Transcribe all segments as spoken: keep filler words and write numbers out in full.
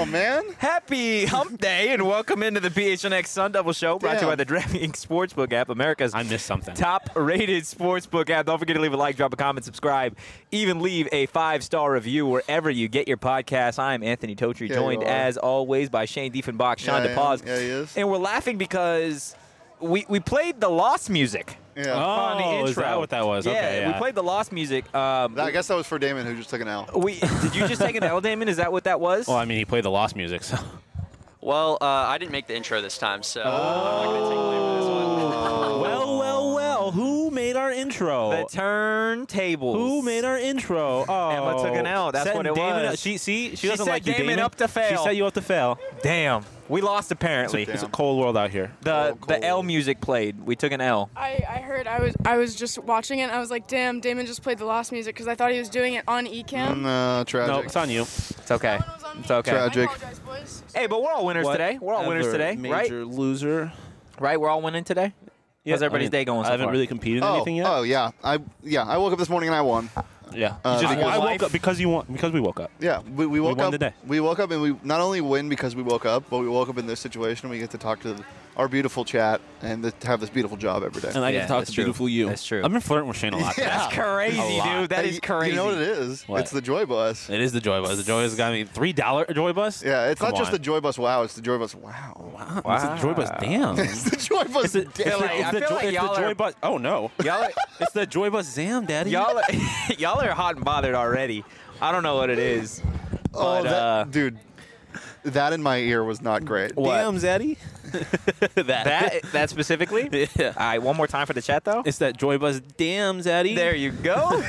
man. Happy Hump Day, and welcome into the P H N X Sun Double Show, brought to you by the DraftKings Sportsbook app, America's I missed something. top-rated sportsbook app. Don't forget to leave a like, drop a comment, subscribe, even leave a five-star review wherever you get your podcast. I'm Anthony Totri, Yeah, joined, you are. as always, by Shane Diefenbach, Sean Yeah, I am. DePause. Yeah, he is. And we're laughing because we, we played the Lost music. Yeah. on the Oh, intro. is that what that was? Yeah, Okay, we yeah. played the Lost music. Um, I guess that was for Damon, who just took an L. we Did you just take an L, Damon? Is that what that was? Well, I mean, he played the Lost music, so. Well, uh, I didn't make the intro this time, so I'm not going to take blame for this one. Well, well, well. Who made our intro? The turntables. Who made our intro? Oh, Emma took an L. That's Setting what it Damon was. Up. She see, she, She doesn't set like you, Damon Damon. up to fail. She set you up to fail. Damn. We lost apparently. It's a Damn. cold world out here. The Oh, the cold. L music played. We took an L. I, I heard I was I was just watching it and I was like, damn, Damon just played the Lost music because I thought he was doing it on Ecamm. No, tragic. No, it's on you. It's okay. That one was on me. It's okay. Tragic. I apologize, boys. Hey, but we're all winners today. We're all winners Whatever, today, right? Major loser. Right? We're all winning today. How's everybody's I mean, day going so I haven't far? really competed in Oh, anything yet. oh yeah. I yeah. I woke up this morning and I won. yeah. Uh, You just, because- I woke Life- up because you want because we woke up. Yeah, we, we woke won up. today. We woke up and we not only win because we woke up, but we woke up in this situation. We get to talk to our beautiful chat and to have this beautiful job every day. And I Yeah, get to talk that's to true. beautiful you. That's true. I've been flirting with Shane a lot. today. Yeah. That's crazy, A lot. dude. That Hey, is you- crazy. You know what it is? What? It's the Joy Bus. It is the Joy Bus. The Joy Bus got me three dollar Joy Bus. Yeah, it's Come not just on. the Joy Bus. Wow, it's the Joy Bus. Wow. Wow. Wow. It's the Joy Bus. Damn. It's the Joy Bus. It's the, Damn. it's the, feel like- it's I the feel joy, like it's y'all the are- Joy Bus. Oh no. Y'all are, It's the Joy Bus Zam, Daddy. y'all, are, y'all are hot and bothered already. I don't know what it is. Oh, But, that, uh, dude, that in my ear was not great. What? Damn, Zaddy. that. That that specifically? Yeah. All right, one more time for the chat, though. It's that Joy Bus. Damn, Zaddy. There you go.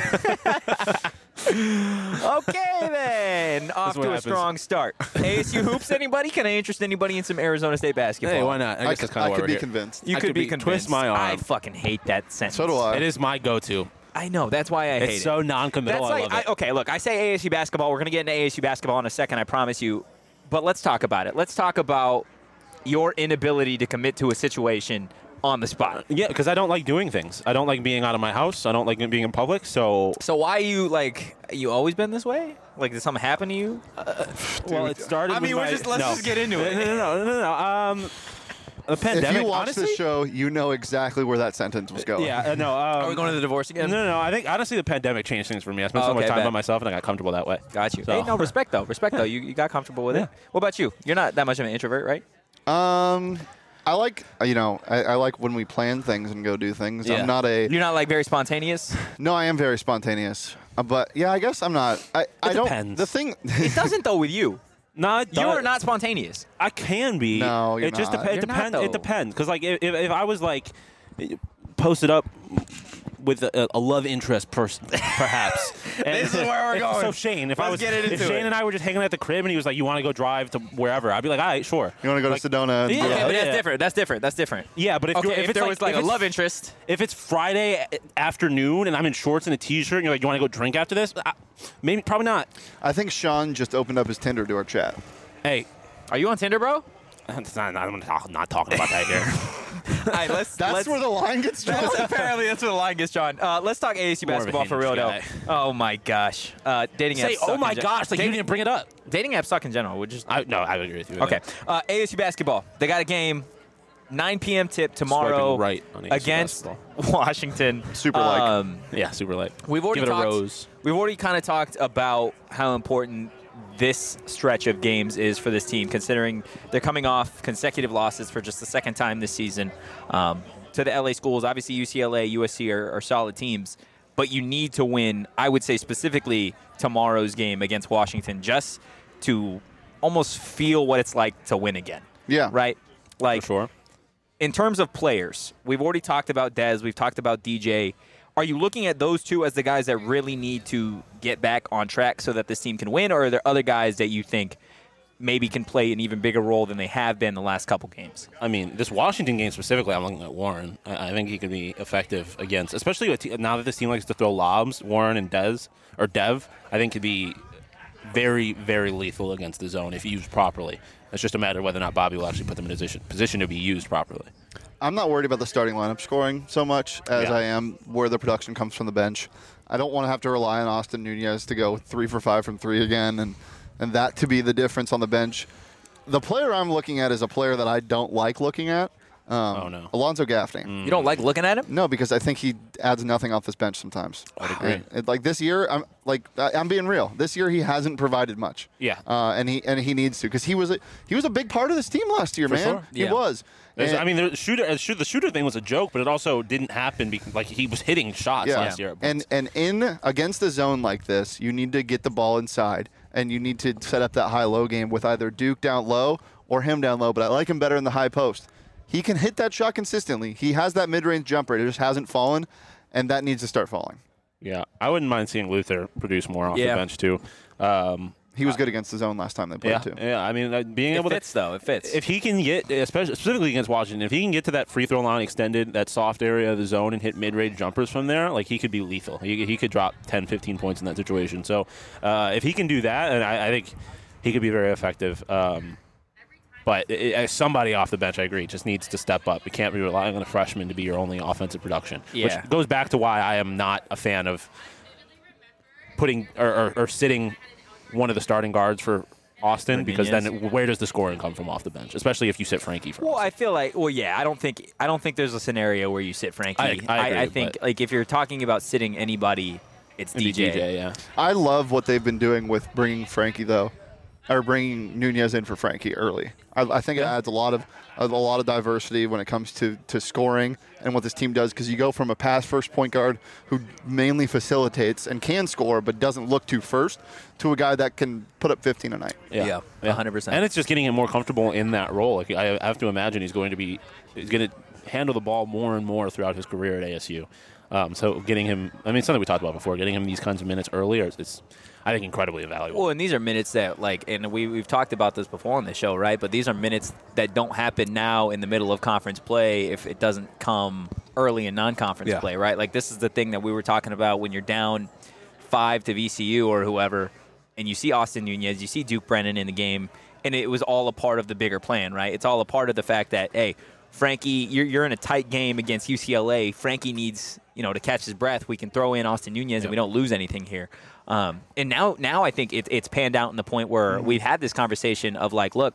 Okay, then. Off what to a happens. strong start. A S U hoops, anybody? Can I interest anybody in some Arizona State basketball? Hey, why not? I I, guess c- that's kind I of why could we're be here. convinced. You I could could be be- convinced. twist my arm. I fucking hate that sentence. So do I. It is my go-to. I know. That's why I hate It's it. so non-committal. That's I like, love it. I, okay, look, I say A S U basketball. We're going to get into A S U basketball in a second, I promise you. But let's talk about it. Let's talk about your inability to commit to a situation on the spot. Yeah, because I don't like doing things. I don't like being out of my house. I don't like being in public. So, So why you, like, you always been this way? Like, did something happen to you? well, it started. I mean, with we're my- just- let's no. just get into it. No, no, no, no, no. no. Um, the pandemic. If you watch honestly, the show, you know exactly where that sentence was going. Yeah, uh, no. Um, Are we going to the divorce again? No, no, no. I think honestly, the pandemic changed things for me. I spent Oh, so much okay, time bet. by myself, and I got comfortable that way. Got you. So- Hey, no, respect, though. Respect, though. You, you got comfortable with Yeah. it. What about you? You're not that much of an introvert, right? Um, I like you know I, I like when we plan things and go do things. Yeah. I'm not a You're not, like, very spontaneous? no. I am very spontaneous, uh, but yeah, I guess I'm not. I I don't. depends. The thing. It doesn't, though, with you. No, it You are does. not spontaneous. I can be. No, you're it just not. depends. You're It not, depends. though. It depends. Because like if, if I was like posted up with a, a love interest person, perhaps. And This is where we're if- going. So Shane, if I Let's was, get it if into Shane it. and I were just hanging at the crib, and he was like, "You want to go drive to wherever?" I'd be like, "All right, sure." You want to go Like, to Sedona? And yeah. Okay, but yeah. that's different. That's different. That's different. Yeah, but if, Okay, you're, if, if, it's there like, was, like, if a it's- love interest. If it's Friday afternoon and I'm in shorts and a t-shirt, and you're like, "You want to go drink after this?" I, maybe, probably not. I think Sean just opened up his Tinder to our chat. Hey, Are you on Tinder, bro? it's not, I'm not, not talking about that here. All right, let's. That's let's, where the line gets drawn. That's apparently that's where the line gets drawn. Uh, let's talk A S U More of a basketball for real, though. Hinge Oh my gosh, uh, dating apps. Say, suck "Oh in my gen- gosh!" Like dating, you didn't bring it up. dating apps suck in general. We're just I, no, I agree with you. okay. Uh, A S U basketball. They got a game, nine p.m. tip tomorrow Swiping right on A S U against basketball. Washington. Super like. Um, Yeah, super light. We've already Give it talked, a rose. We've already kind of talked about how important this stretch of games is for this team, considering they're coming off consecutive losses for just the second time this season um, to the L A schools. Obviously, U C L A, U S C are, are solid teams, but you need to win, I would say specifically tomorrow's game against Washington, just to almost feel what it's like to win again. Yeah. Right? Like, For sure. in terms of players, we've already talked about Dez, we've talked about D J. Are you looking at those two as the guys that really need to get back on track so that this team can win, or are there other guys that you think maybe can play an even bigger role than they have been the last couple games? I mean, this Washington game specifically, I'm looking at Warren. I, I think he could be effective against, especially with, now that this team likes to throw lobs. Warren and Dez or Dev, I think could be very, very lethal against the zone if used properly. It's just a matter of whether or not Bobby will actually put them in a position, position to be used properly. I'm not worried about the starting lineup scoring so much as Yeah. I am where the production comes from the bench. I don't want to have to rely on Austin Nunez to go three for five from three again and and that to be the difference on the bench. The player I'm looking at is a player that I don't like looking at. Um, oh, no. Alonzo Gaffney. Mm. You don't like looking at him? No, because I think he adds nothing off this bench sometimes. I'd agree. And, and, like this year, I'm like I- I'm being real. This year he hasn't provided much. Yeah. Uh, and he and he needs to because he was a, he was a big part of this team last year, For man. sure. He Yeah. was. There's- And- I mean, the shooter, uh, shoot- the shooter thing was a joke, but it also didn't happen because like he was hitting shots Yeah. last year. And and in against the zone like this, you need to get the ball inside, and you need to set up that high-low game with either Duke down low or him down low. But I like him better in the high post. He can hit that shot consistently. He has that mid-range jumper. It just hasn't fallen, and that needs to start falling. yeah, I wouldn't mind seeing Luther produce more off Yeah. the bench too. Um, He was good against the zone last time they played yeah, too. yeah. I mean, uh, being It able fits, to. though. It fits. If he can get, especially specifically against Washington, if he can get to that free throw line extended, that soft area of the zone, and hit mid-range jumpers from there, like he could be lethal. He, he could drop ten, fifteen points in that situation. So uh, if he can do that, and I, I think he could be very effective. Um, but it, it, somebody off the bench, I agree, just needs to step up. You can't be relying on a freshman to be your only offensive production. Yeah. Which goes back to why I am not a fan of putting or, or, or sitting one of the starting guards for Austin, because then it, where does the scoring come from off the bench, especially if you sit Frankie for Well, Austin? I feel like, well, yeah, I don't think, I don't think there's a scenario where you sit Frankie. I- I agree, I think, but- like, if you're talking about sitting anybody, it's Maybe D J. D J, yeah. I love what they've been doing with bringing Frankie though, or bringing Nunez in for Frankie early. I, I think it adds a lot of a lot of diversity when it comes to, to scoring and what this team does, because you go from a pass first point guard who mainly facilitates and can score but doesn't look to first to a guy that can put up fifteen a night. Yeah, one hundred percent. And it's just getting him more comfortable in that role. Like I have to imagine he's going to be he's going to handle the ball more and more throughout his career at A S U. Um, so getting him, I mean, something we talked about before, getting him these kinds of minutes earlier is, is I think, incredibly valuable. Well, and these are minutes that, like, and we, we've talked about this before on the show, right? But these are minutes that don't happen now in the middle of conference play if it doesn't come early in non-conference Yeah. play, right? Like, this is the thing that we were talking about when you're down five to V C U or whoever, and you see Austin Nunez, you see Duke Brennan in the game, and it was all a part of the bigger plan, right? It's all a part of the fact that, hey, Frankie, you're, you're in a tight game against U C L A. Frankie needs, you know, to catch his breath. We can throw in Austin Nunez, Yep. and we don't lose anything here. Um, and now, now I think it, it's panned out in the point where Mm-hmm. we've had this conversation of like, look,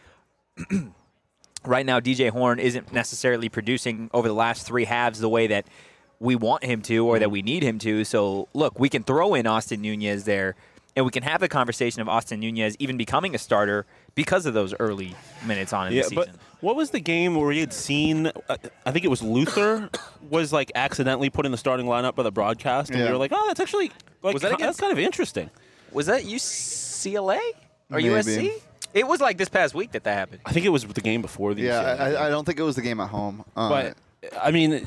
right now D J Horn isn't necessarily producing over the last three halves the way that we want him to or that we need him to. So, look, we can throw in Austin Nunez there, and we can have the conversation of Austin Nunez even becoming a starter because of those early minutes on in yeah, the season. but what was the game where we had seen? Uh, I think it was Luther was like accidentally put in the starting lineup by the broadcast, and Yeah. we were like, "Oh, that's actually like Was that ki- against- that's kind of interesting." Was that U C L A or Maybe. U S C? It was like this past week that that happened. I think it was the game before the. Yeah, U C L A game. I, I don't think it was the game at home. Uh, But I mean,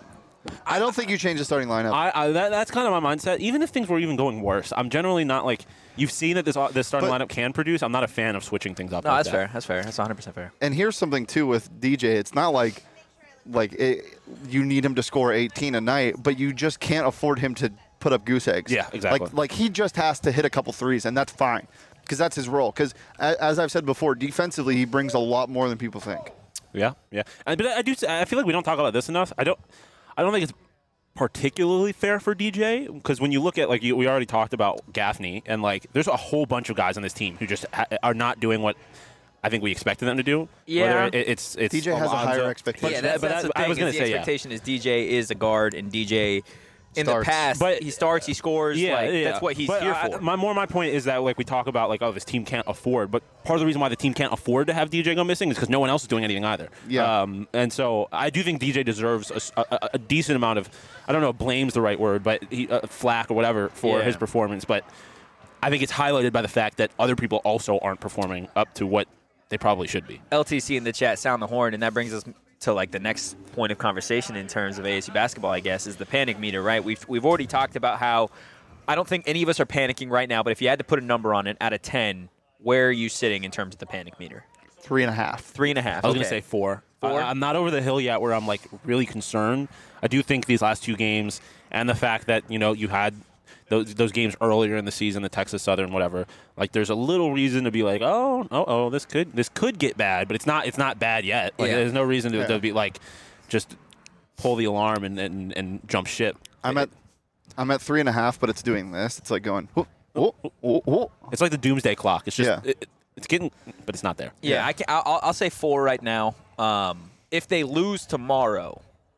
I don't think you change the starting lineup. I, I that, that's kind of my mindset. Even if things were even going worse, I'm generally not like you've seen that this uh, this starting But- lineup can produce. I'm not a fan of switching things up. No, like that's that. fair. That's fair. That's one hundred percent fair. And here's something too with D J. It's not like like it, you need him to score eighteen a night, but you just can't afford him to put up goose eggs. Yeah, exactly. Like like he just has to hit a couple threes, and that's fine because that's his role. Because as I've said before, defensively he brings a lot more than people think. Yeah, yeah. And, but I do. I feel like we don't talk about this enough. I don't. I don't think it's particularly fair for D J because when you look at like you, we already talked about Gaffney and like there's a whole bunch of guys on this team who just ha- are not doing what I think we expected them to do. Yeah. Whether it, it's it's D J has a higher Alonzo- expectation. yeah, But- that's, but that's I- the I thing. was gonna is the say yeah. expectation is D J is a guard, and D J in Starts. the past, But- he starts, he scores. Yeah, like, yeah. That's what he's But here I- for. My more my point is that like we talk about like oh this team can't afford, but part of the reason why the team can't afford to have D J go missing is because no one else is doing anything either. Yeah. Um, and so I do think D J deserves a, s- a- a decent amount of I don't know if blame's the right word, but he, uh, flack or whatever for Yeah. his performance. But I think it's highlighted by the fact that other people also aren't performing up to what they probably should be. L T C in the chat, sound the horn, and that brings us to like the next point of conversation in terms of A S U basketball, I guess, is the panic meter, right? We've we've already talked about how I don't think any of us are panicking right now, but if you had to put a number on it out of ten, where are you sitting in terms of the panic meter? Three and a half. Three and a half. I was okay. going to say four. Four? I, I'm not over the hill yet where I'm like really concerned. I do think these last two games and the fact that, you know, you had those those games earlier in the season, the Texas Southern, whatever, like there's a little reason to be like, oh, oh, oh, this could this could get bad, but it's not it's not bad yet. Like Yeah. there's no reason to, Yeah. to be like just pull the alarm and, and, and jump ship. I'm at I'm at three and a half, but it's doing this. It's like going whoop, Oh, oh, oh. It's like the doomsday clock. It's just Yeah. it, it's getting, but it's not there. Yeah, Yeah. I can, I'll, I'll say four right now. Um, if they lose tomorrow,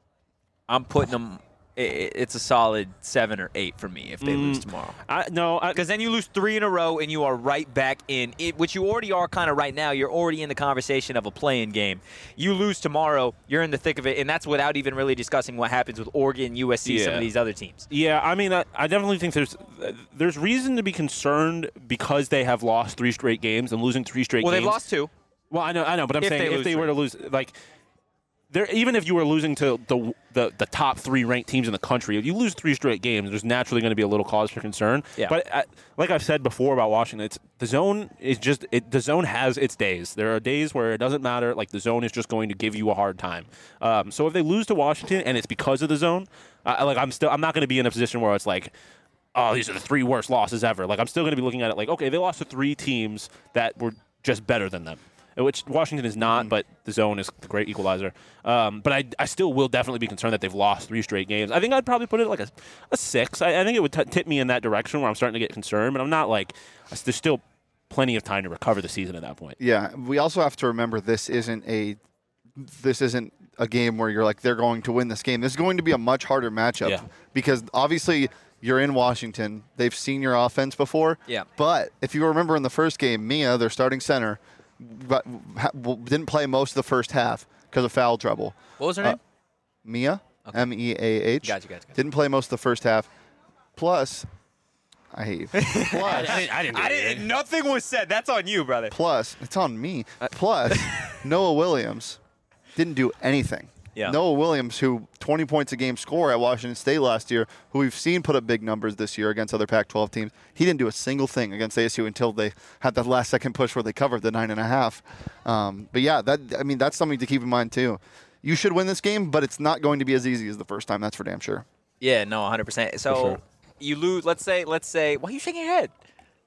I'm putting them. i- i- It's a solid seven or eight for me if they lose tomorrow. I, no, I, Because then you lose three in a row and you are right back in it, which you already are kind of right now. You're already in the conversation of a play-in game. You lose tomorrow, you're in the thick of it, and that's without even really discussing what happens with Oregon, U S C, some Yeah. of these other teams. Yeah, I mean, I, I definitely think there's there's reason to be concerned because they have lost three straight games and losing three straight Well, games. they've lost two. Well, I know, I know, but I'm If saying they if lose they were three. to lose, like, there, even if you were losing to the, the the top three ranked teams in the country, if you lose three straight games, there's naturally going to be a little cause for concern. Yeah. But I, like I've said before about Washington, it's the zone is just it, the zone has its days. There are days where it doesn't matter. Like the zone is just going to give you a hard time. Um, so if they lose to Washington and it's because of the zone, I, like I'm still I'm not going to be in a position where it's like, oh, these are the three worst losses ever. Like I'm still going to be looking at it like, okay, they lost to three teams that were just better than them, which Washington is not, but the zone is the great equalizer. Um, but I, I still will definitely be concerned that they've lost three straight games. I think I'd probably put it like a, a six. I, I think it would t- tip me in that direction where I'm starting to get concerned, but I'm not like, there's still plenty of time to recover the season at that point. Yeah, we also have to remember this isn't a this isn't a game where you're like they're going to win this game. This is going to be a much harder matchup Yeah. because obviously you're in Washington. They've seen your offense before. Yeah. But if you remember in the first game, Mia, their starting center, but ha- didn't play most of the first half because of foul trouble. What was her Uh, name? Mia, Okay. M E A H. Gotcha, gotcha, gotcha. Didn't play most of the first half. Plus, I hate you. Plus, I didn't, I didn't do I anything. didn't. Nothing was said. That's on you, brother. Plus, it's on me. Plus, Noah Williams didn't do anything. Yeah. Noah Williams, who twenty points a game score at Washington State last year, who we've seen put up big numbers this year against other Pac twelve teams, he didn't do a single thing against A S U until they had that last second push where they covered the nine and a half. Um, but yeah, that I mean that's something to keep in mind too. You should win this game, but it's not going to be as easy as the first time. That's for damn sure. Yeah, no, one hundred percent. So sure. you lose. Let's say. Let's say. Why are you shaking your head?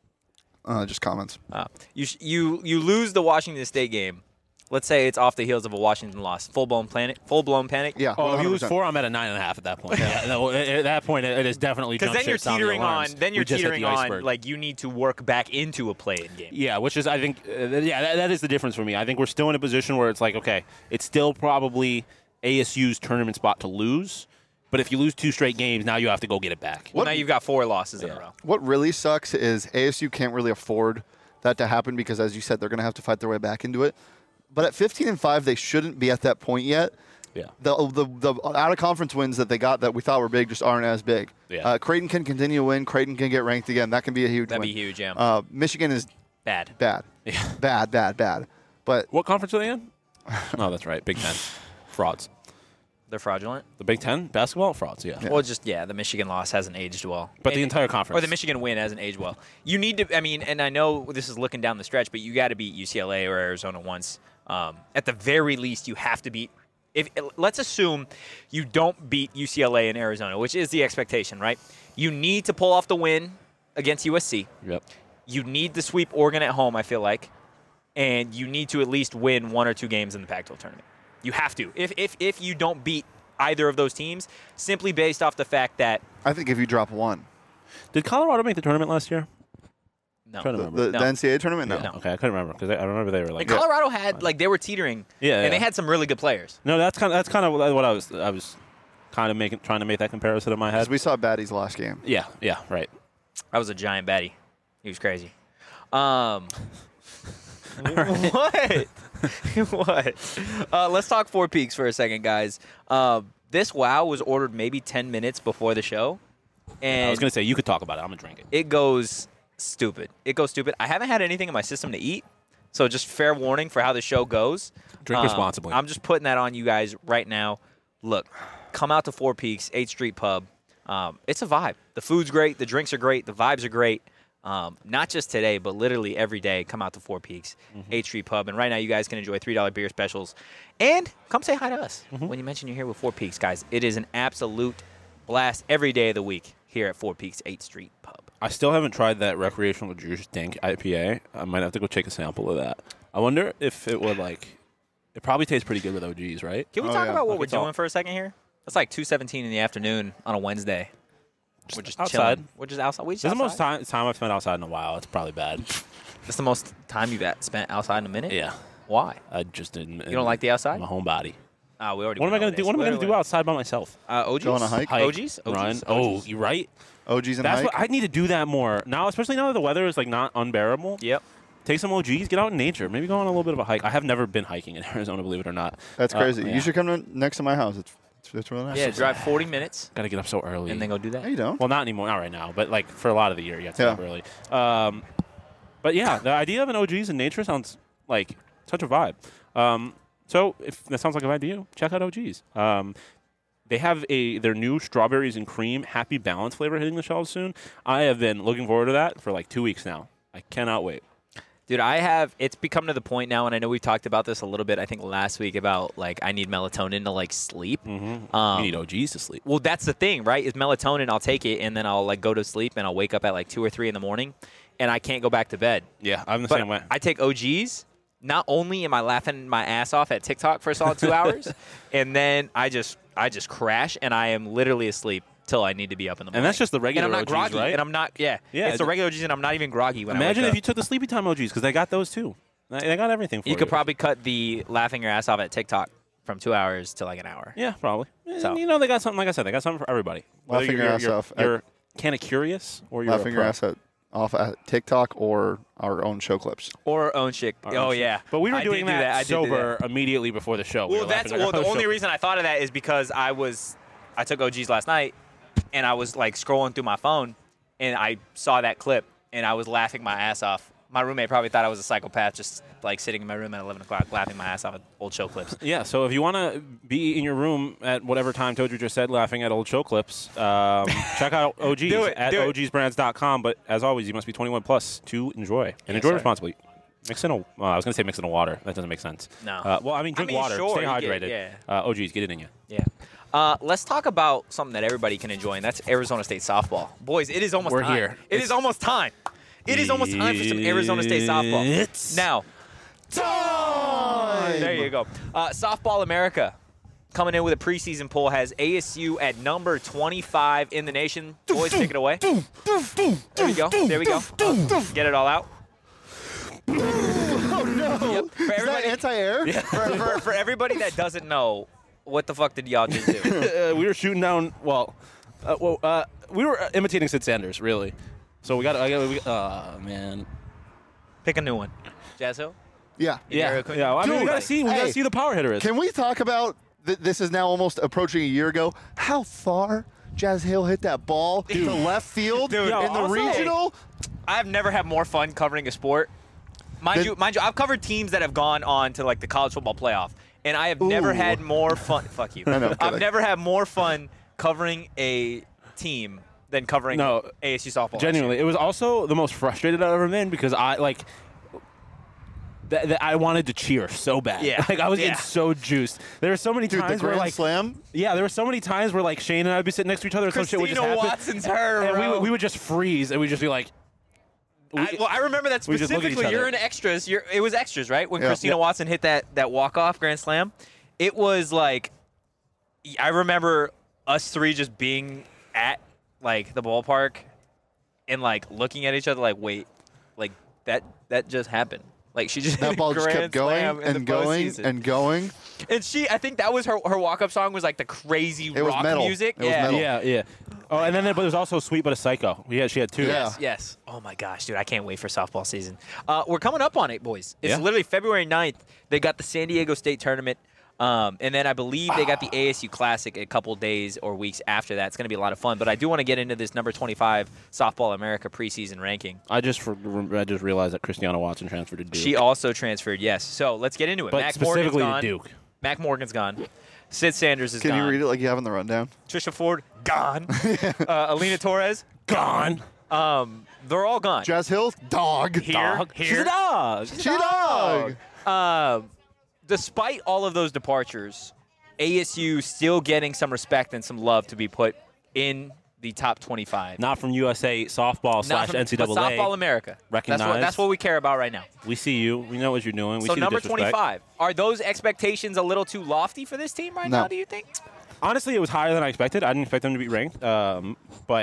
Uh, just comments. Uh, you sh- you you lose the Washington State game. Let's say it's off the heels of a Washington loss. Full blown panic. Full blown panic. Yeah. Oh, if you lose one hundred percent. four, I'm at a nine and a half at that point. Yeah, no, at at that point, it is definitely Because jump then you're ship sounding teetering on. alarms. Then you're We just hit teetering the on. iceberg. Like you need to work back into a play-in game. Yeah, which is I think uh, yeah that, that is the difference for me. I think we're still in a position where it's like okay, it's still probably A S U's tournament spot to lose, but if you lose two straight games, now you have to go get it back. Well, now you've got four losses in a row. What really sucks is A S U can't really afford that to happen because, as you said, they're going to have to fight their way back into it. But at fifteen and five, they shouldn't be at that point yet. Yeah. The the, the out of conference wins that they got that we thought were big just aren't as big. Yeah. Uh, Creighton can continue to win. Creighton can get ranked again. That can be a huge That'd win. be huge, yeah. Uh, Michigan is Bad. bad. Yeah. Bad, bad, bad. But What conference are they in? Oh, that's right, Big Ten. Frauds. They're fraudulent. The Big Ten basketball frauds. Yeah. Well, just yeah, the Michigan loss hasn't aged well. But the And- entire conference. Or the Michigan win hasn't aged well. You need to. I mean, and I know this is looking down the stretch, but you got to beat U C L A or Arizona once. Um, at the very least, you have to beat. If let's assume you don't beat U C L A and Arizona, which is the expectation, right? You need to pull off the win against U S C. Yep. You need to sweep Oregon at home, I feel like, and you need to at least win one or two games in the Pac twelve tournament. You have to. If if if you don't beat either of those teams, simply based off the fact that I think if you drop one, Did Colorado make the tournament last year? no, I'm trying to the, remember. the, No. the N C A A tournament, no. No. Okay, I couldn't remember because I, I remember they were like. And Colorado had like they were teetering, Yeah, and yeah. they had some really good players. No, that's kind of that's kind of what I was I was kind of making trying to make that comparison in my head. Because we saw Baddies last game. Yeah, yeah, right. I was a giant baddie. He was crazy. Um, what? what? Uh, let's talk Four Peaks for a second, guys. Uh, this WoW was ordered maybe ten minutes before the show, and I was gonna say you could talk about it. I'm gonna drink it. it goes stupid. It goes stupid. I haven't had anything in my system to eat, so just fair warning for how the show goes. Drink Um, responsibly. I'm just putting that on you guys right now. Look, come out to Four Peaks, eighth Street Pub. Um, it's a vibe. The food's great. The drinks are great. The vibes are great. Um, not just today, but literally every day. Come out to Four Peaks, Mm-hmm. eighth Street Pub. And right now, you guys can enjoy three dollar beer specials. And come say hi to us Mm-hmm. when you mention you're here with Four Peaks, guys. It is an absolute blast every day of the week here at Four Peaks, eighth Street Pub. I still haven't tried that recreational juice dank I P A. I might have to go take a sample of that. I wonder if it would like. It probably tastes pretty good with O Gs, right? Can we Oh, talk yeah. about what Okay, we're talk. doing for a second here? It's like two seventeen in the afternoon on a Wednesday. We're just outside. chilling. We're just outside. We just This is the outside. most time, time I've spent outside in a while. It's probably bad. That's the most time you've at- spent outside in a minute? Yeah. Why? I just didn't. You don't like the outside? My homebody. Ah, we already What am I went going over to do? this. What am I Wait, going to wait, do wait. outside by myself? Uh, O Gs? Go on a hike? Hike, O Gs? O Gs? run. O Gs. Oh, you're right. O Gs and That's hike. what I need to do that more now, especially now that the weather is like not unbearable. Yep. Take some O Gs, get out in nature, maybe go on a little bit of a hike. I have never been hiking in Arizona, believe it or not. That's Uh, crazy. yeah. You should come to, next to my house. It's it's, it's really nice. Yeah, drive forty minutes Got to get up so early. and then go do that. No, you don't. Well, not anymore, not right now, but like for a lot of the year, you have to Yeah. get up early. Um, but yeah, the idea of an O Gs in nature sounds like such a vibe. Um, so if that sounds like a vibe to you, check out O Gs. Um, they have a their new strawberries and cream Happy Balance flavor hitting the shelves soon. I have been looking forward to that for like two weeks now. I cannot wait. Dude, I have, it's become to the point now, and I know we talked about this a little bit, I think last week, about like I need melatonin to like sleep. Mm-hmm. Um, you need O Gs to sleep. Well, that's the thing, right? Is melatonin, I'll take it, and then I'll like go to sleep, and I'll wake up at like two or three in the morning, and I can't go back to bed. Yeah, I'm the But same way. I take O Gs. Not only am I laughing my ass off at TikTok for a solid two hours, and then I just I just crash, and I am literally asleep till I need to be up in the morning. And that's just the regular And I'm not O Gs, groggy, right? and I'm not. Yeah, Yeah, It's the it- regular O Gs, and I'm not even groggy when Imagine I wake if you up. took the Sleepy Time O Gs because they got those too. They they got everything for you. You could probably cut the laughing your ass off at TikTok from two hours to like an hour. Yeah, probably. So- And, you know, they got something. Like I said, they got something for everybody. Whether Laughing you're, your ass you're, off at- You're kind of curious, or you're Laughing a your pro. ass at, off at TikTok or our own show clips. Or own chick. Our Oh own shit. yeah. But we were I doing did do that, I did do sober immediately before the show. We Well, were that's laughing well. at The our only show. reason I thought of that is because I was, I took O Gs last night, and I was like scrolling through my phone, and I saw that clip, and I was laughing my ass off. My roommate probably thought I was a psychopath, just like sitting in my room at eleven o'clock, laughing my ass off at old show clips. Yeah, so if you want to be in your room at whatever time Toadry just said, laughing at old show clips, um, check out O Gs Do it, at do it. O Gs brands dot com. But as always, you must be twenty-one plus to enjoy. And Yes, enjoy sir. responsibly. Mix in a, uh, I was going to say mix in a water. That doesn't make sense. No. Uh, well, I mean, I drink mean, water. sure, Stay you get- hydrated. yeah. Uh, O Gs, get it in you. Yeah. Uh, let's talk about something that everybody can enjoy, and that's Arizona State softball. Boys, it is almost We're time. here. It It's- is almost time. It is almost time for some Arizona State softball. It's Now, Time! there you go. Uh, Softball America coming in with a preseason poll has A S U at number twenty-five in the nation. Boys, take it away. There we go. There we go. Get it all out. Oh no! Yep. For Is that everybody, anti-air? for, for, for everybody that doesn't know, what the fuck did y'all just do? uh, we were shooting down. Well, uh, well, uh, we were uh, imitating Sid Sanders, really. So we got. I got. We, oh man. Pick a new one. Jazz Hill? Yeah. Yeah. Area code? Yeah. Well, I mean, we Dude, gotta see. We gotta hey, see who the power hitter is. Can we talk about th- this? Is now almost approaching a year ago. How far Jazz Hill hit that ball to left field Dude, in yo, the also- regional? I've never had more fun covering a sport. Mind Then- you, mind you, I've covered teams that have gone on to like the college football playoff, and I have never Ooh. had more fun. Fuck you. I know, I've kidding. never had more fun covering a team than covering No, A S U softball. last Genuinely, year. it was also the most frustrated I've ever been because I like. Th- th- I wanted to cheer so bad. Yeah. Like I was Yeah. getting so juiced. There were so many Dude, the times where grand like slam. yeah, there were so many times where like Shane and I'd be sitting next to each other and some shit would just Christina happen. Watson's her, and we, bro. would- we would just freeze and we'd just be like. we- I, well, I remember that we just look at each specifically. You're other. in extras. You're, it was extras, right? When Yeah. Christina Yeah. Watson hit that that walk off grand slam, it was like I remember us three just being at like the ballpark and like looking at each other, like, wait, like that that just happened. Like she just hit That a ball just grand kept going slam in and the going postseason. and going. And she, I think that was her her walk up song was like the crazy It was rock metal. music. It was yeah. metal. Yeah, yeah. Oh, and then there, but there's also Sweet But a Psycho. Yeah, she had two. Yeah. Yes, yes. Oh my gosh, dude, I can't wait for softball season. Uh, we're coming up on it, boys. It's Yeah. literally February ninth. They got the San Diego State tournament. Um, and then I believe they got the A S U Classic a couple days or weeks after that. It's going to be a lot of fun. But I do want to get into this number twenty-five Softball America preseason ranking. I just for, I just realized that Christiana Watson transferred to Duke. She also transferred, yes. So let's get into it. but Mac Morgan's specifically to gone. Duke. Mac Morgan's gone. Sid Sanders is Can gone. you read it like you have in the rundown? Trisha Ford, gone. uh, Alina Torres, Gone. um, they're all gone. Jazz Hill, dog. Here, Dog. here. She's a dog. She's a She dog. Um, despite all of those departures, A S U still getting some respect and some love to be put in the top twenty-five. Not from U S A softball Not slash from- N C double but Softball A. America. That's what, Recognized. that's what we care about right now. We see you. We know what you're doing. We so see number the disrespect. twenty-five. Are those expectations a little too lofty for this team right No. now, do you think? Honestly, it was higher than I expected. I didn't expect them to be ranked. Um, but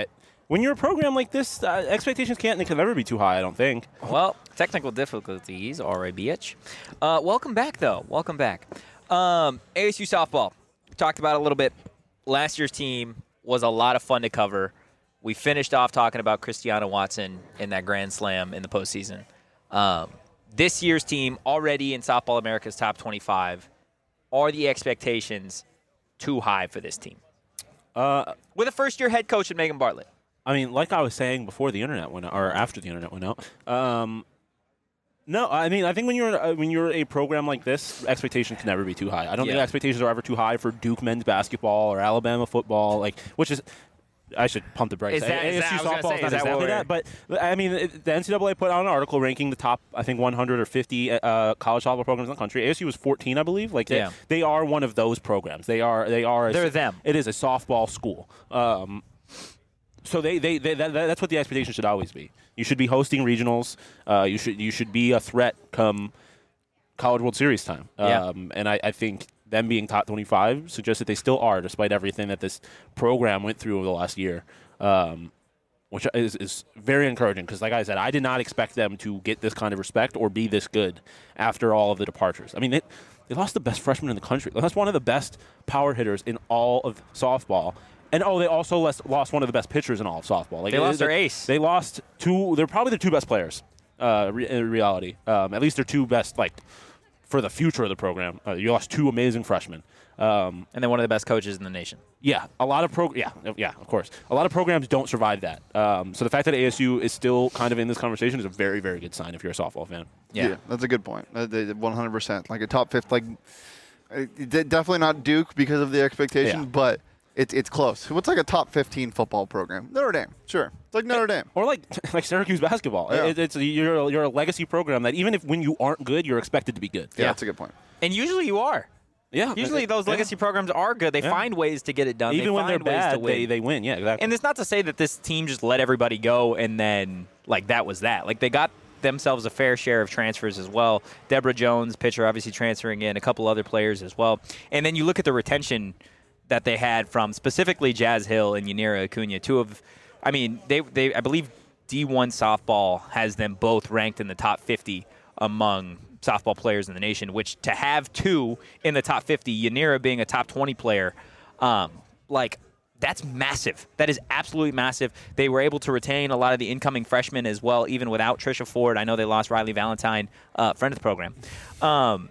when you're a program like this, uh, expectations can't and can never be too high, I don't think. Well, technical difficulties are a bitch. Uh, welcome back, though. Welcome back. Um, A S U softball. We talked about it a little bit. Last year's team was a lot of fun to cover. We finished off talking about Christiana Watson in that Grand Slam in the postseason. Um, this year's team already in Softball America's top twenty-five. Are the expectations too high for this team? Uh, With a first-year head coach in Megan Bartlett. I mean, like I was saying before the internet went out, or after the internet went out. Um, no, I mean, I think when you're uh, when you're a program like this, expectations can never be too high. I don't Yeah. think expectations are ever too high for Duke men's basketball or Alabama football, like which is. I should pump the brakes. Is that- is A S U that- I was gonna softball say, is is not that exactly what that, but I mean, it, the N C double A put out an article ranking the top, I think, one hundred or fifty uh, college softball programs in the country. A S U was fourteen, I believe. Like they, Yeah. they are one of those programs. They are. They are. A, They're them. It is a softball school. Um, so they, they, they that, that's what the expectation should always be. You should be hosting regionals. Uh, you should you should be a threat come College World Series time. Yeah. Um, and I, I think them being top twenty-five suggests that they still are, despite everything that this program went through over the last year. Um, which is, is very encouraging because, like I said, I did not expect them to get this kind of respect or be this good after all of the departures. I mean, they, they lost the best freshman in the country. They lost one of the best power hitters in all of softball. And, oh, they also lost, lost one of the best pitchers in all of softball. Like, They lost they, their ace. They lost two. They're probably the two best players uh, re, in reality. Um, at least they're two best, like, for the future of the program. Uh, you lost two amazing freshmen. Um, And then one of the best coaches in the nation. yeah, a lot of pro. Yeah, yeah, of course. A lot of programs don't survive that. Um, so the fact that A S U is still kind of in this conversation is a very, very good sign if you're a softball fan. Yeah. that's a good point. Uh, they- one hundred percent. Like a top fifth, like uh, de- definitely not Duke because of the expectation, Yeah. but it's it's close. What's like a top fifteen football program? Notre Dame, sure. It's like Notre Dame. Or like like Syracuse basketball. Yeah. It, it's you're a, you're a legacy program that even if when you aren't good, you're expected to be good. Yeah, that's a good point. And usually you are. Yeah. Usually those Yeah. legacy programs are good. They Yeah. find ways to get it done. Even they when they're find ways bad, to win. they they win. Yeah, exactly. And it's not to say that this team just let everybody go and then, like, that was that. Like, they got themselves a fair share of transfers as well. Deborah Jones, pitcher, obviously transferring in, a couple other players as well. And then you look at the retention that they had from specifically Jazz Hill and Yanira Acuna, two of, I mean, they, they I believe D one softball has them both ranked in the top fifty among softball players in the nation, which to have two in the top fifty, Yanira being a top twenty player, um, like, that's massive. That is absolutely massive. They were able to retain a lot of the incoming freshmen as well, even without Trisha Ford. I know they lost Riley Valentine, uh, friend of the program. Um,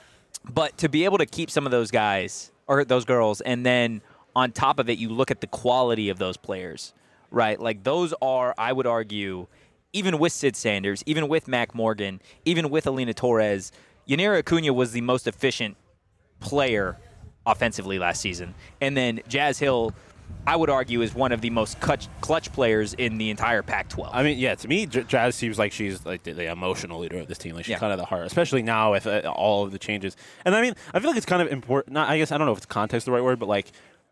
but to be able to keep some of those guys, or those girls, and then on top of it, you look at the quality of those players, right? Like, those are, I would argue, even with Sid Sanders, even with Mac Morgan, even with Alina Torres, Yanira Acuna was the most efficient player offensively last season. And then Jazz Hill, I would argue, is one of the most clutch, clutch players in the entire Pac twelve. I mean, yeah, to me, J- Jazz seems like she's like the, the emotional leader of this team. Like she's Yeah. kind of the heart, especially now with uh, all of the changes. And I mean, I feel like it's kind of important. Not, I guess I don't know if it's context the right word, but like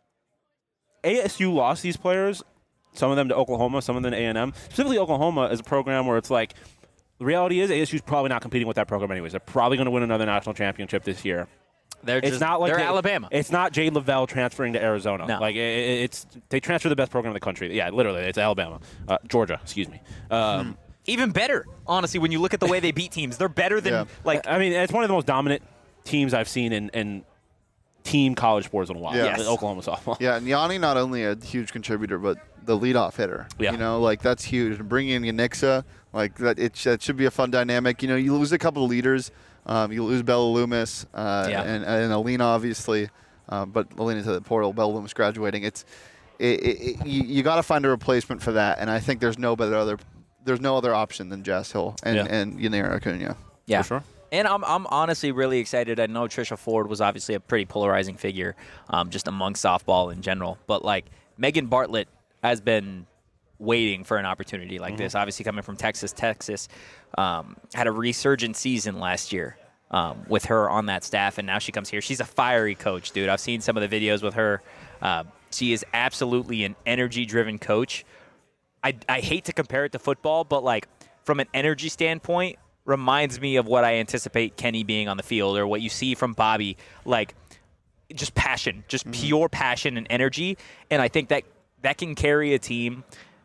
A S U lost these players, some of them to Oklahoma, some of them to A and M. Specifically, Oklahoma is a program where it's like the reality is A S U's probably not competing with that program anyways. They're probably going to win another national championship this year. they're It's just, not like they're they- Alabama. It's not Jade Lavelle transferring to Arizona. No. Like it, it- it's they transfer the best program in the country. Yeah, literally, it's Alabama, uh, Georgia. Excuse me. Um, Even better, honestly, when you look at the way they beat teams. They're better than, Yeah. like, I mean, it's one of the most dominant teams I've seen in, in team college sports in a while. Yeah. Yes. Oklahoma softball. Yeah, and Yanni not only a huge contributor, but the leadoff hitter. Yeah. You know, like that's huge. And bringing in Yanixa, like that, it, sh- that should be a fun dynamic. You know, you lose a couple of leaders. Um, you lose Bella Loomis uh, Yeah. and, and Alina, obviously. Um, but Alina to the portal, Bella Loomis graduating. It's it, it, it, you, you got to find a replacement for that. And I think there's no better other there's no other option than Jazz Hill and Yeah. and Yanira Acuna. yeah. For sure. And I'm, I'm honestly really excited. I know Trisha Ford was obviously a pretty polarizing figure um, just among softball in general. But, like, Megan Bartlett has been waiting for an opportunity like this. Obviously coming from Texas. Texas um, had a resurgent season last year um, with her on that staff, and now she comes here. She's a fiery coach, dude. I've seen some of the videos with her. Uh, she is absolutely an energy-driven coach. I, I hate to compare it to football, but, like, from an energy standpoint, reminds me of what I anticipate Kenny being on the field or what you see from Bobby, like just passion, just pure passion and energy. And I think that that can carry a team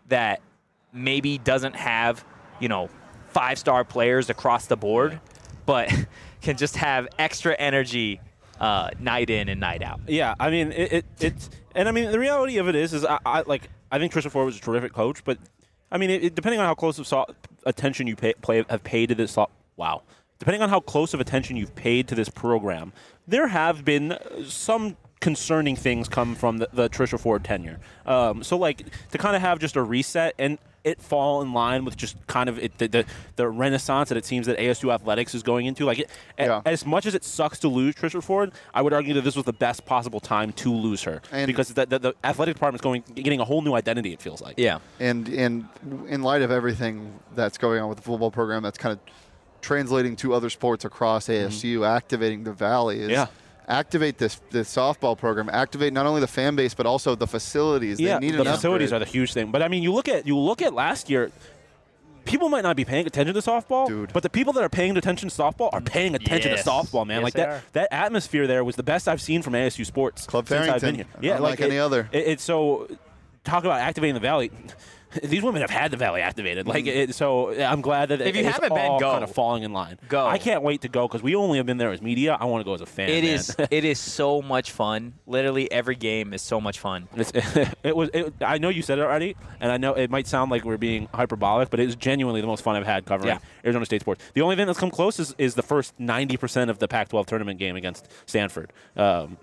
that maybe doesn't have, you know, five-star players across the board, but can just have extra energy uh, night in and night out. Yeah, I mean, it, it it's and I mean the reality of it is, is I, I like I think Trisha Ford was a terrific coach, but I mean, it, it, depending on how close of so- attention you pay, play have paid to this, so- wow, depending on how close of attention you've paid to this program, there have been some concerning things come from the, the Trisha Ford tenure. Um, so, like, to kind of have just a reset and it fall in line with just kind of it, the, the the renaissance that it seems that A S U athletics is going into. Like, it, Yeah. a, as much as it sucks to lose Trisha Ford, I would argue that this was the best possible time to lose her And- because the, the, the athletic department is going getting a whole new identity. It feels like. Yeah. And and in light of everything that's going on with the football program, that's kind of translating to other sports across A S U, activating the Valley is Yeah. activate this this softball program, activate not only the fan base but also the facilities. Yeah, they need the an facilities upgrade. are the huge thing. But I mean, you look at you look at last year. People might not be paying attention to softball, Dude. but the people that are paying attention to softball are paying attention Yes. to softball, man. Yes, like they that, are. that atmosphere there was the best I've seen from A S U sports Club since I've been here. Farrington, Yeah, unlike any it- other. It, it's so talk about activating the Valley. These women have had the Valley activated. Like it, so, I'm glad that If you it's haven't been, all go. kind of falling in line. Go. I can't wait to go because we only have been there as media. I want to go as a fan. It man. is. It is so much fun. Literally every game is so much fun. It's, it was. It, I know you said it already, and I know it might sound like we're being hyperbolic, but it is genuinely the most fun I've had covering Yeah. Arizona State sports. The only thing that's come close is, is the first ninety percent of the Pac twelve tournament game against Stanford. Um,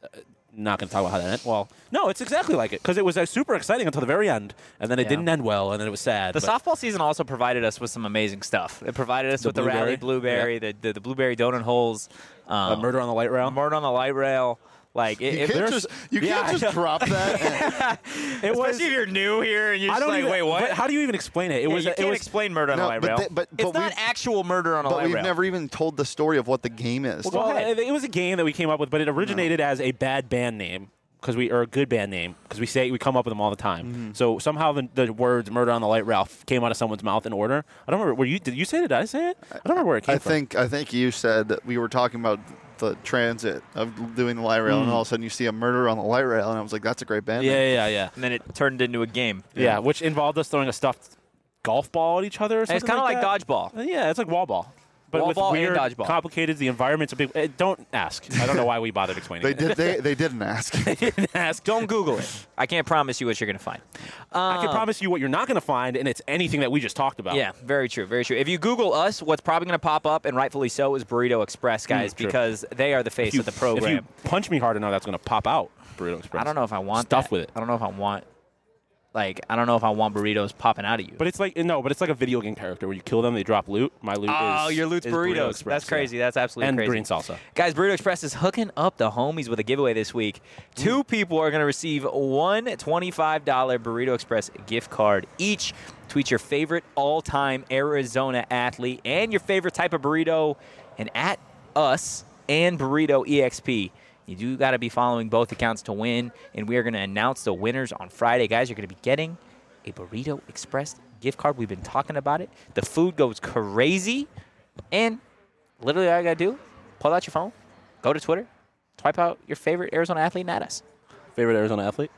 not going to talk about how that ended. Well, no, it's exactly like it because it was uh, super exciting until the very end, and then it Yeah. didn't end well, and then it was sad. The but- softball season also provided us with some amazing stuff. It provided us The with the rally blueberry? blueberry, the, the the blueberry donut holes, um, uh, murder on the light rail. murder on the light rail. Like it, You if can't there's, just, you Yeah, can't I just know. drop that. and- It was. especially if you're new here and you're I just don't like, even, wait, what? but how do you even explain it? It Yeah, was. you it can't was. explain murder on No, a light but rail. they- but- it's but not we've- actual murder on a but light we've rail. never even told the story of what the game is. Well, go Well, ahead. it, it was a game that we came up with, but it originated as a bad band name because we or a good band name because we say we come up with them all the time. Mm-hmm. So somehow the, the words "murder on the light rail" came out of someone's mouth in order. I don't remember. Were you? Did you say it? Did I say it? I don't remember where it came I from. think I think you said that we were talking about the transit of doing the light rail, and all of a sudden you see a murder on the light rail, and I was like, "That's a great band." Yeah, name. yeah, yeah, and then it turned into a game. yeah. Yeah, which involved us throwing a stuffed golf ball at each other. Or And something it's kind of like, that. dodgeball. Uh, Yeah, it's like wall ball. But Wall with ball and weird, dodgeball. complicated, the environment's a big. Uh, don't ask. I don't know why we bothered explaining They it. did. They they didn't ask. didn't ask. Don't Google it. I can't promise you what you're going to find. I can Um, promise you what you're not going to find, and it's anything that we just talked about. Yeah, very true, very true. If you Google us, what's probably going to pop up, and rightfully so, is Burrito Express, guys, true. because they are the face If you, of the program. If you punch me hard enough, that's going to pop out. Burrito Express. I don't know if I want Stuff that. with it. I don't know if I want, like, I don't know if I want burritos popping out of you. But it's like no, but it's like a video game character where you kill them, they drop loot. My loot oh, is your loot's is burritos. Express, That's crazy. yeah. That's absolutely and crazy. green salsa. Guys, Burrito Express is hooking up the homies with a giveaway this week. Two people are going to receive one twenty-five dollars Burrito Express gift card each. Tweet your favorite all-time Arizona athlete and your favorite type of burrito, and at us and Burrito E X P. You do got to be following both accounts to win, and we are going to announce the winners on Friday. Guys, you're going to be getting a Burrito Express gift card. We've been talking about it. The food goes crazy, and literally all you got to do, pull out your phone, go to Twitter, type out your favorite Arizona athlete, and add us. Favorite Arizona athlete?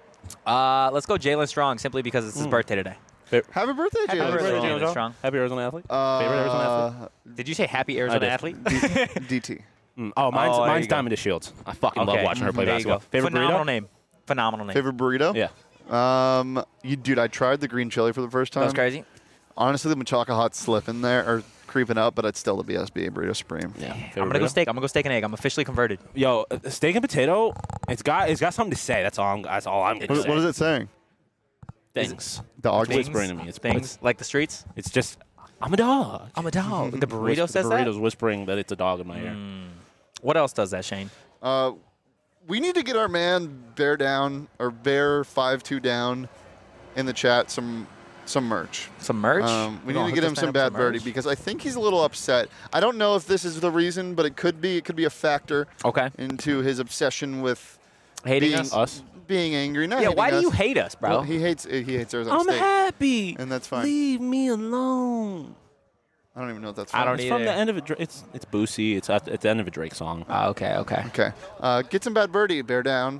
Uh, let's go Jalen Strong, simply because it's his birthday today. Happy birthday, Happy Jalen. birthday, Strong. Jalen Strong. Happy Arizona athlete? Uh, Favorite Arizona athlete? Did you say happy Arizona did. athlete? D T. Mm. Oh, mine's, Oh, there mine's you go. Diamond Shields. I fucking Okay. love watching her play There you basketball. go. Favorite Phenomenal burrito? name. Phenomenal name. Favorite burrito? Yeah. Um, you dude, I tried the green chili for the first time. That was crazy. Honestly, the Machaca Hot's slipping there or creeping up, but it's still the B S B Burrito Supreme. Yeah. I'm Favorite gonna go burrito? steak. I'm gonna go steak and egg. I'm officially converted. Yo, uh, steak and potato. It's got it's got something to say. That's all. I'm, that's all I'm gonna What, say. what is it saying? Things. Dog. Things. whispering to me. It's- things it's- like the streets. It's just I'm a dog. I'm a dog. The burrito Whisper- says the that. burrito's whispering that it's a dog in my ear. What else does that, Shane? Uh, we need to get our man Bear Down or Bear Five Two Down in the chat some some merch. Some merch. Um, we We're need gonna to get hook him this some man up Bad Birdie merch. because I think he's a little upset. I don't know if this is the reason, but it could be. It could be a factor Okay. into his obsession with Hating being, us. Us? being angry. Not Yeah. hating Why do us. you hate us, bro? Well, he hates he hates Arizona I'm State, happy. and that's fine. Leave me alone. I don't even know if that's. I Fine. don't It's either. from the end of a. Dra- It's it's Boosie. It's at, at the end of a Drake song. Oh, okay. Okay. Okay, uh, get some Bad Birdie. Bear Down.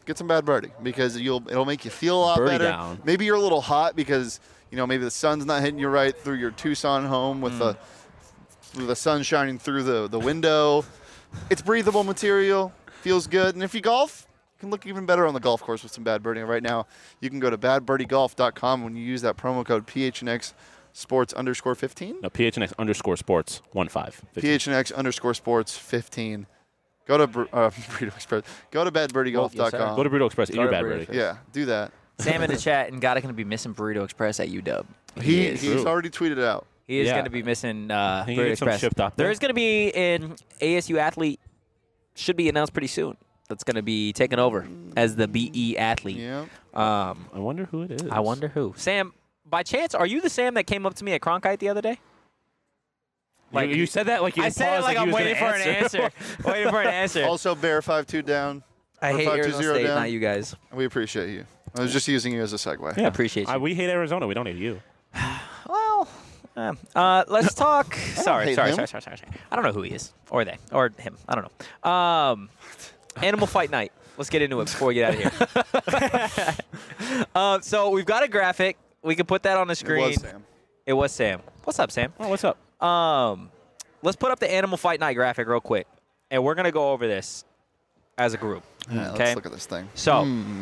get some Bad Birdie because you'll it'll make you feel a lot Birdie better. down. Maybe you're a little hot because you know maybe the sun's not hitting you right through your Tucson home with Mm. the with the sun shining through the the window. It's breathable material, feels good, and if you golf, you can look even better on the golf course with some Bad Birdie. Right now, you can go to bad birdie golf dot com when you use that promo code P H N X Sports underscore fifteen. No, P H N X underscore sports one five. P H N X underscore sports fifteen. Go to Bur- uh, Burrito Express. Go to bad birdie golf dot com. Go to Burrito Express. Eat Go your to bad Burrito birdie. Express. Yeah, do that. Sam in the chat and Gotta going to be missing Burrito Express at U W. He, is. he's True. already tweeted it out. He is Yeah. going to be missing uh, He can Burrito get some Express. shipped up There there. is going to be an A S U athlete, should be announced pretty soon, that's going to be taking over as the B E athlete. Yeah. Um, I wonder who it is. I wonder who. Sam, by chance, are you the Sam that came up to me at Cronkite the other day? Like, you, you said that like you I didn't said it pause like you I'm was waiting for gonna an answer. waiting for an answer. Also, Bear five two down. I or hate five two Arizona zero State, down. not you guys. We appreciate you. I was just using you as a segue. Yeah. I appreciate you. I, we hate Arizona. We don't hate you. Well, um, uh, let's talk. sorry, hate sorry, him. sorry, sorry, sorry, sorry. I don't know who he is, or they, or him. I don't know. Um, Animal Fight Night. Let's get into it before we get out of here. uh, so we've got a graphic. We can put that on the It screen. was Sam. It was Sam. What's up, Sam? Oh, what's up? Um, let's put up the Animal Fight Night graphic real quick, and we're gonna go over this as a group. Yeah, okay. Let's look at this thing. So, Hmm.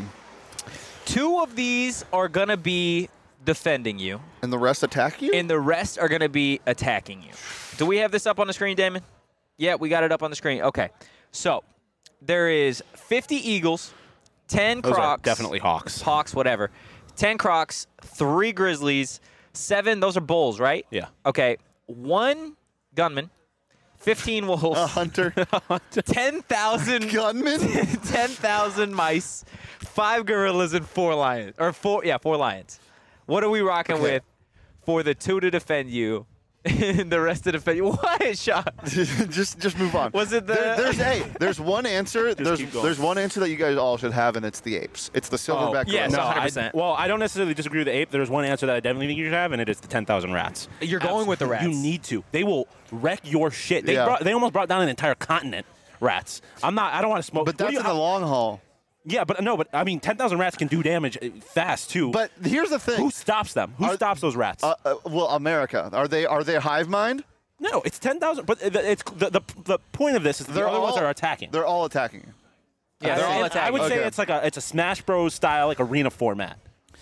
two of these are gonna be defending you, And the rest attack you? and the rest are gonna be attacking you. Do we have this up on the screen, Damon? Yeah, we got it up on the screen. Okay. So, there is fifty Eagles, ten Those Crocs, are definitely Hawks. Hawks, whatever. ten Crocs, three Grizzlies, seven, those are Bulls, right? Yeah. Okay. One Gunman, fifteen Wolves, a hunter. ten thousand Gunman? ten thousand mice, five gorillas, and four lions. Or four, yeah, four lions. What are we rocking Okay. with for the two to defend you and the rest to defend you? What, Sean? just just move on. Was it the- There, there's hey, there's one answer. there's keep going. there's one answer that you guys all should have, and it's the apes. It's the silverback. yes. gorilla. one I, hundred percent. well, I don't necessarily disagree with the ape. There's one answer that I definitely think you should have, and it is the ten thousand rats. You're going with the rats. You need to. They will wreck your shit. They Yeah. brought, they almost brought down an entire continent. Rats. I'm not. I don't want to smoke. But what do that's you- in the long haul. Yeah, but no, but I mean, ten thousand rats can do damage uh, fast too. But here's the thing. who stops them? Who Are- stops those rats? Uh, uh, well, America. Are they are they hive mind? no, it's ten thousand. But the- it's the, the the point of this is the other ones are attacking. They're all attacking you. Yeah, they're I- all I attacking. would say Okay. it's like a it's a Smash Bros style like arena format.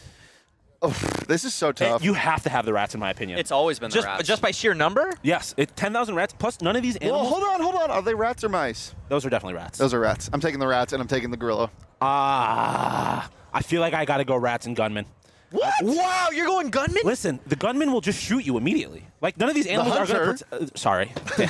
This is so And tough. you have to have the rats, in my opinion. It's always been the just, rats. just by sheer number? yes, it ten thousand rats plus none of these well, animals. hold on, hold on. Are they rats or mice? Those are definitely rats. Those are rats. I'm taking the rats, and I'm taking the gorilla. Ah, I feel like I got to go rats and gunmen. What? Wow, you're going gunman? Listen, the gunman will just shoot you immediately. Like none of these animals are going hunter- to. Uh, sorry,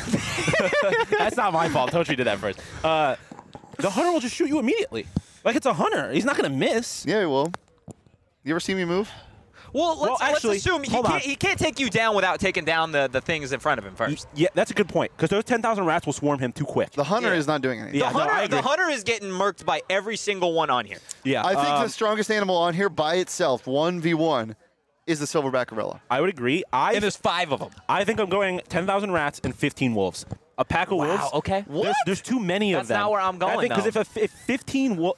that's not my fault. Tochi did that first. Uh, the hunter will just shoot you immediately. Like it's a hunter. He's not going to miss. Yeah, he will. You ever see me move? Well, let's, Well, actually, let's assume he hold can't, on. he can't take you down without taking down the, the things in front of him first. Yeah, that's a good point. Because those ten thousand rats will swarm him too quick. The hunter Yeah. is not doing anything. Yeah, the, no, hunter, I agree. the hunter is getting murked by every single one on here. yeah, I think um, the strongest animal on here by itself, one v one, is the silverback gorilla. I would agree. I And there's five of them. I think I'm going ten thousand rats and fifteen wolves. A pack of Wow, wolves. okay. There's, What? there's too many That's of them. not where I'm going, I think because if, though. a, if fifteen wolves.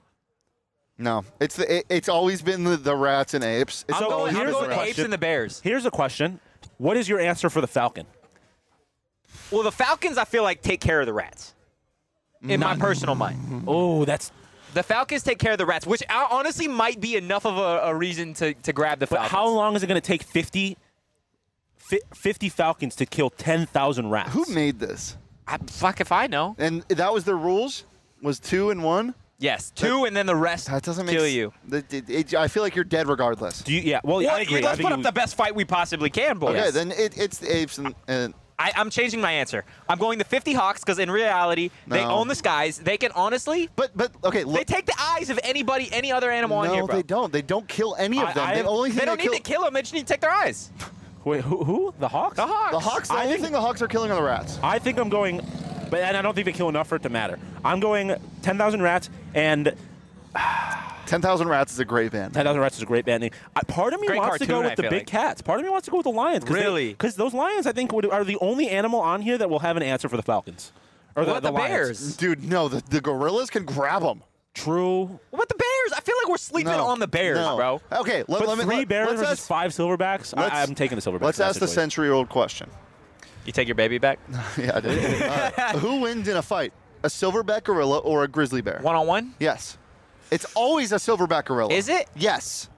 No, it's the it, it's always been the, the rats and apes. It's I'm So going, I'm here's going the the apes question. and the bears. Here's a question: what is your answer for the falcon? Well, the Falcons, I feel like, take care of the rats. In my personal mind. Oh, that's. The Falcons take care of the rats, which uh, honestly might be enough of a, a reason to, to grab the But Falcons. how long is it going to take fifty, fi- fifty falcons to kill ten thousand rats? Who made this? I, fuck if I know. And that was their rules. Was two and one. Yes, two, and then the rest That doesn't make kill s- you. That- it- it- I feel like you're dead regardless. Do you? Yeah. Well, Well, I agree. let's I think put up you- the best fight we possibly can, boys. Okay, then it, it's the apes and, and I, I'm changing my answer. I'm going the fifty Hawks because in reality, they No. own the skies. They can honestly, but but okay. they Look, take the eyes of anybody, any other animal no, on here, bro. they don't. They don't kill any of I- them. I- the only thing They don't they need kill, to kill them. They just need to take their eyes. Wait, who? Who? The Hawks? The Hawks. the hawks. The I only think- thing the hawks are killing are the rats. I think I'm going, but and I don't think they kill enough for it to matter. I'm going ten thousand rats and Ten thousand rats is a great band. ten thousand rats is a great band name. I, part of me Great wants to go cartoon, with I the feel big like. cats. Part of me wants to go with the lions. Cause Really? Because those lions, I think, would, are the only animal on here that will have an answer for the falcons. Or What the, about the lions. bears? Dude, no, the, the gorillas can grab them. True. What about the Bears? I feel like we're sleeping No. on the Bears, No. bro. Okay, let, But let me, three let, bears let's versus ask, five silverbacks. let's- I, I'm taking the silverbacks. let's in that ask the situation. century-old question. You take your baby back? Yeah, I did. Uh, who wins in a fight, a silverback gorilla or a grizzly bear? One on one? Yes. It's always a silverback gorilla. Is it? Yes.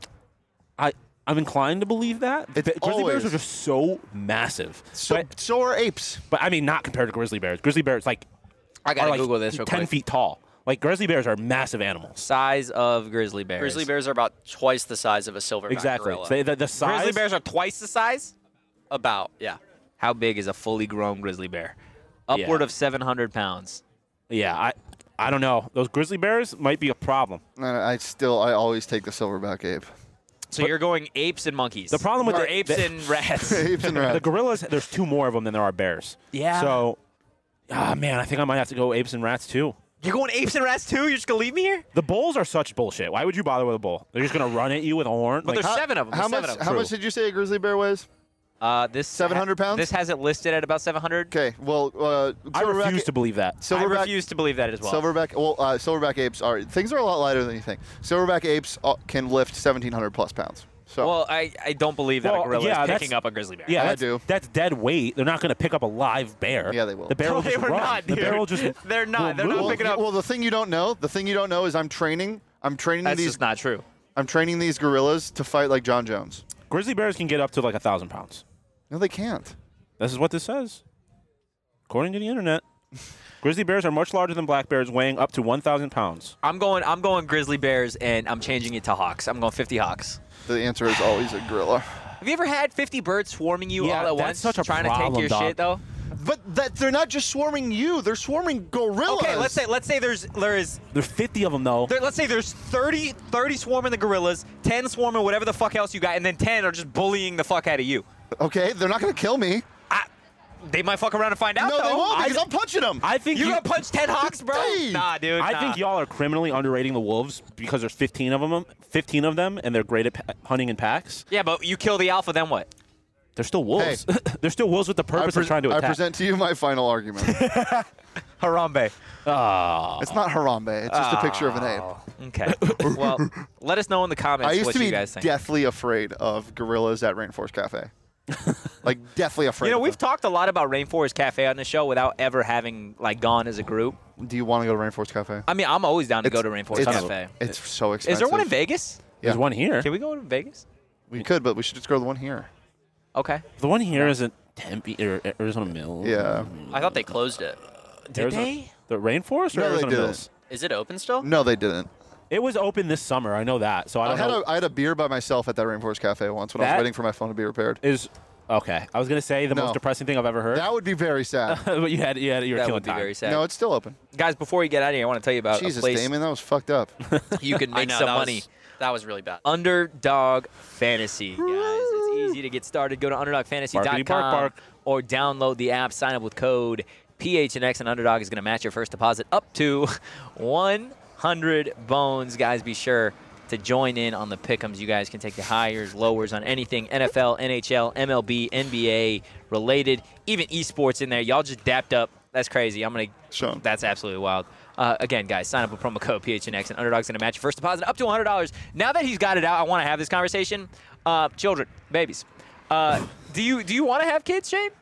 I I'm inclined to believe that. It's But grizzly bears always- are just so massive. So, but, so are apes. but I mean, not compared to grizzly bears. Grizzly bears like I are gotta like Google this real ten quick. feet tall. Like grizzly bears are massive animals. Size of grizzly bears. Grizzly bears are about twice the size of a silverback Exactly. gorilla. So the, the size. Grizzly bears are twice the size? About, yeah. How big is a fully grown grizzly bear? Upward Yeah. of seven hundred pounds. Yeah, I I don't know. Those grizzly bears might be a problem. And I still, I always take the silverback ape. So you're going apes and monkeys. The problem with or the- apes the- and rats. Apes and rats. The gorillas, there's two more of them than there are bears. Yeah. So, ah man, I think I might have to go apes and rats too. You're going apes and rats too? You're just gonna leave me here? The bulls are such bullshit. Why would you bother with a bull? They're just gonna run at you with a horn. But Like, there's seven of them. How There's much? seven of them. How True. much did you say a grizzly bear weighs? Uh, this seven hundred pounds? This has it listed at about seven hundred. Okay. Well, uh, I silverback- refuse to believe that. I Silverback, refuse to believe that as well. silverback. Well, uh, silverback apes are things are a lot lighter than you think. Silverback apes uh, can lift seventeen hundred plus pounds. So Well, I, I don't believe that Well, a gorilla yeah, is that's- picking up a grizzly bear. Yeah, I that's, do. That's dead weight. They're not gonna pick up a live bear. Yeah, they will. The bear No, will they just were run. not, The bear dude. will just. They're not. will They're not move. well, picking up. well, the thing you don't know, the thing you don't know is I'm training. I'm training That's these. just not true. I'm training these gorillas to fight like John Jones. Grizzly bears can get up to like a thousand pounds. No, they can't. This is what this says, according to the internet. Grizzly bears are much larger than black bears, weighing up to one thousand pounds. I'm going. I'm going grizzly bears, and I'm changing it to hawks. I'm going fifty hawks. The answer is always a gorilla. Have you ever had fifty birds swarming you Yeah, all at that's once, such a trying to problem, take your dog. shit though? But that they're not just swarming you; they're swarming gorillas. Okay, let's say let's say there's there is There's fifty of them though. there, let's say there's thirty, thirty swarming the gorillas, ten swarming whatever the fuck else you got, and then ten are just bullying the fuck out of you. Okay, they're not going to kill me. I, they might fuck around and find out. No, though. they won't I- because I'm punching them. I think you you. gonna punch ten hawks, bro? Dave! Nah, dude. I nah. think y'all are criminally underrating the wolves because there's fifteen of them. fifteen of them, and they're great at pa- hunting in packs. Yeah, but you kill the alpha, then what? They're still wolves. they're still wolves with the I, purpose pre- of trying to I attack. present to you my final argument. Harambe. Ah. It's not Harambe. It's just a picture of an ape. Okay. Well, let us know in the comments I used what to you be guys think. deathly afraid of gorillas at Rainforest Cafe. Like deathly afraid. You know, of we've them. talked a lot about Rainforest Cafe on the show without ever having like gone as a group. Do you want to go to Rainforest Cafe? I mean, I'm always down to go to It's- Rainforest it's- Cafe. It's so expensive. Is there one in Vegas? There's Yeah. one here. Can we go to Vegas? We could, but we should just go to the one here. Okay. The one here is at Tempe or Arizona Mills. Yeah. I thought they closed it. Did Arizona- they? The rainforest or No, they Arizona didn't. Mills? Is it open still? No, they didn't. It was open this summer. I know that. So I I don't had know. a I had a beer by myself at that Rainforest Cafe once when I That- was waiting for my phone to be repaired. is okay. I was gonna say the No. most depressing thing I've ever heard. That would be very sad. but you had you had you were That killing would be time. very sad. No, it's still open. Guys, before you get out of here, I want to tell you about Jesus, a place Damon, that was fucked up. you can I make know, some that money. Was, that was really bad. Underdog Fantasy, guys. It's easy to get started. Go to underdog fantasy dot com Barkity bark bark. or download the app. Sign up with code P H N X, and Underdog is going to match your first deposit up to one hundred bones. Guys, be sure to join in on the pick'ems. You guys can take the highers, lowers on anything N F L, N H L, M L B, N B A related, even esports in there. Y'all just dapped up. That's crazy. I'm gonna. Sean. That's absolutely wild. Uh, again, guys, sign up with promo code P H N X, and Underdog's going to match your first deposit up to one hundred dollars. Now that he's got it out, I want to have this conversation. Uh, children, babies, uh, do you do you want to have kids, Shane?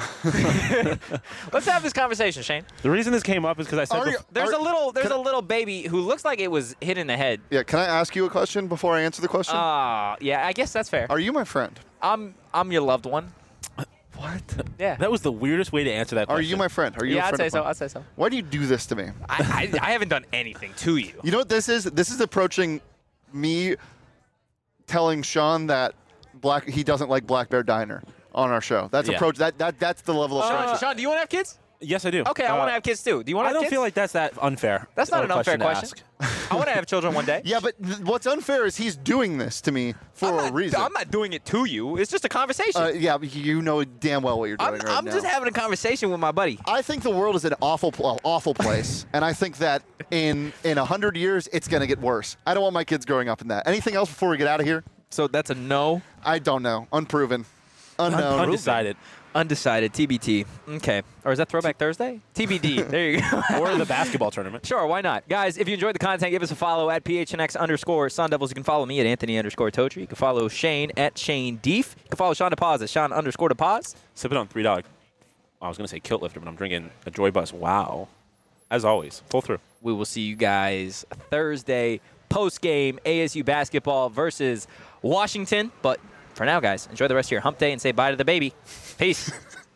Let's have this conversation, Shane. The reason this came up is because I said Are you- bef- There's Are- a little there's can a little baby who looks like it was hit in the head. Yeah, can I ask you a question before I answer the question? Ah, yeah, I guess that's fair. Are you my friend? I'm I'm your loved one. What? Yeah. that was the weirdest way to answer that Are question. you my friend? Are you yeah, a I'd friend say of so. mine? I'd say so. Why do you do this to me? I, I I haven't done anything to you. You know what this is? This is approaching me telling Sean that black he doesn't like Black Bear Diner on our show. That's Yeah. approach that that that's the level of Sean, friendship. Sean, do you want to have kids? Yes, I do. Okay, I Uh, want to have kids too. Do you want to I have don't kids? feel like that's that unfair. That's not of an a unfair to question. ask. I want to have children one day. Yeah, but th- what's unfair is he's doing this to me for I'm a not, reason. I'm not doing it to you. It's just a conversation. uh, yeah, but you know damn well what you're doing I'm, right I'm now. just having a conversation with my buddy. I think the world is an awful, pl- awful place, and I think that in in a hundred years it's gonna get worse. I don't want my kids growing up in that. Anything else before we get out of here? So that's a no. I don't know. Unproven. Unknown. Undecided. Undecided, T B T. Okay. Or is that Throwback Thursday? T B D. There you go. Or the basketball tournament. Sure, why not? Guys, if you enjoyed the content, give us a follow at P H N X underscore Sun Devils. You can follow me at Anthony underscore Totri. You can follow Shane at Shane Deef. You can follow Sean DePaz at Sean underscore DePaz. Sipping on Three Dog. I was going to say Kilt Lifter, but I'm drinking a Joy Bus. Wow. As always, full through. We will see you guys Thursday, post-game, A S U basketball versus Washington. But for now, guys, enjoy the rest of your hump day and say bye to the baby. Peace.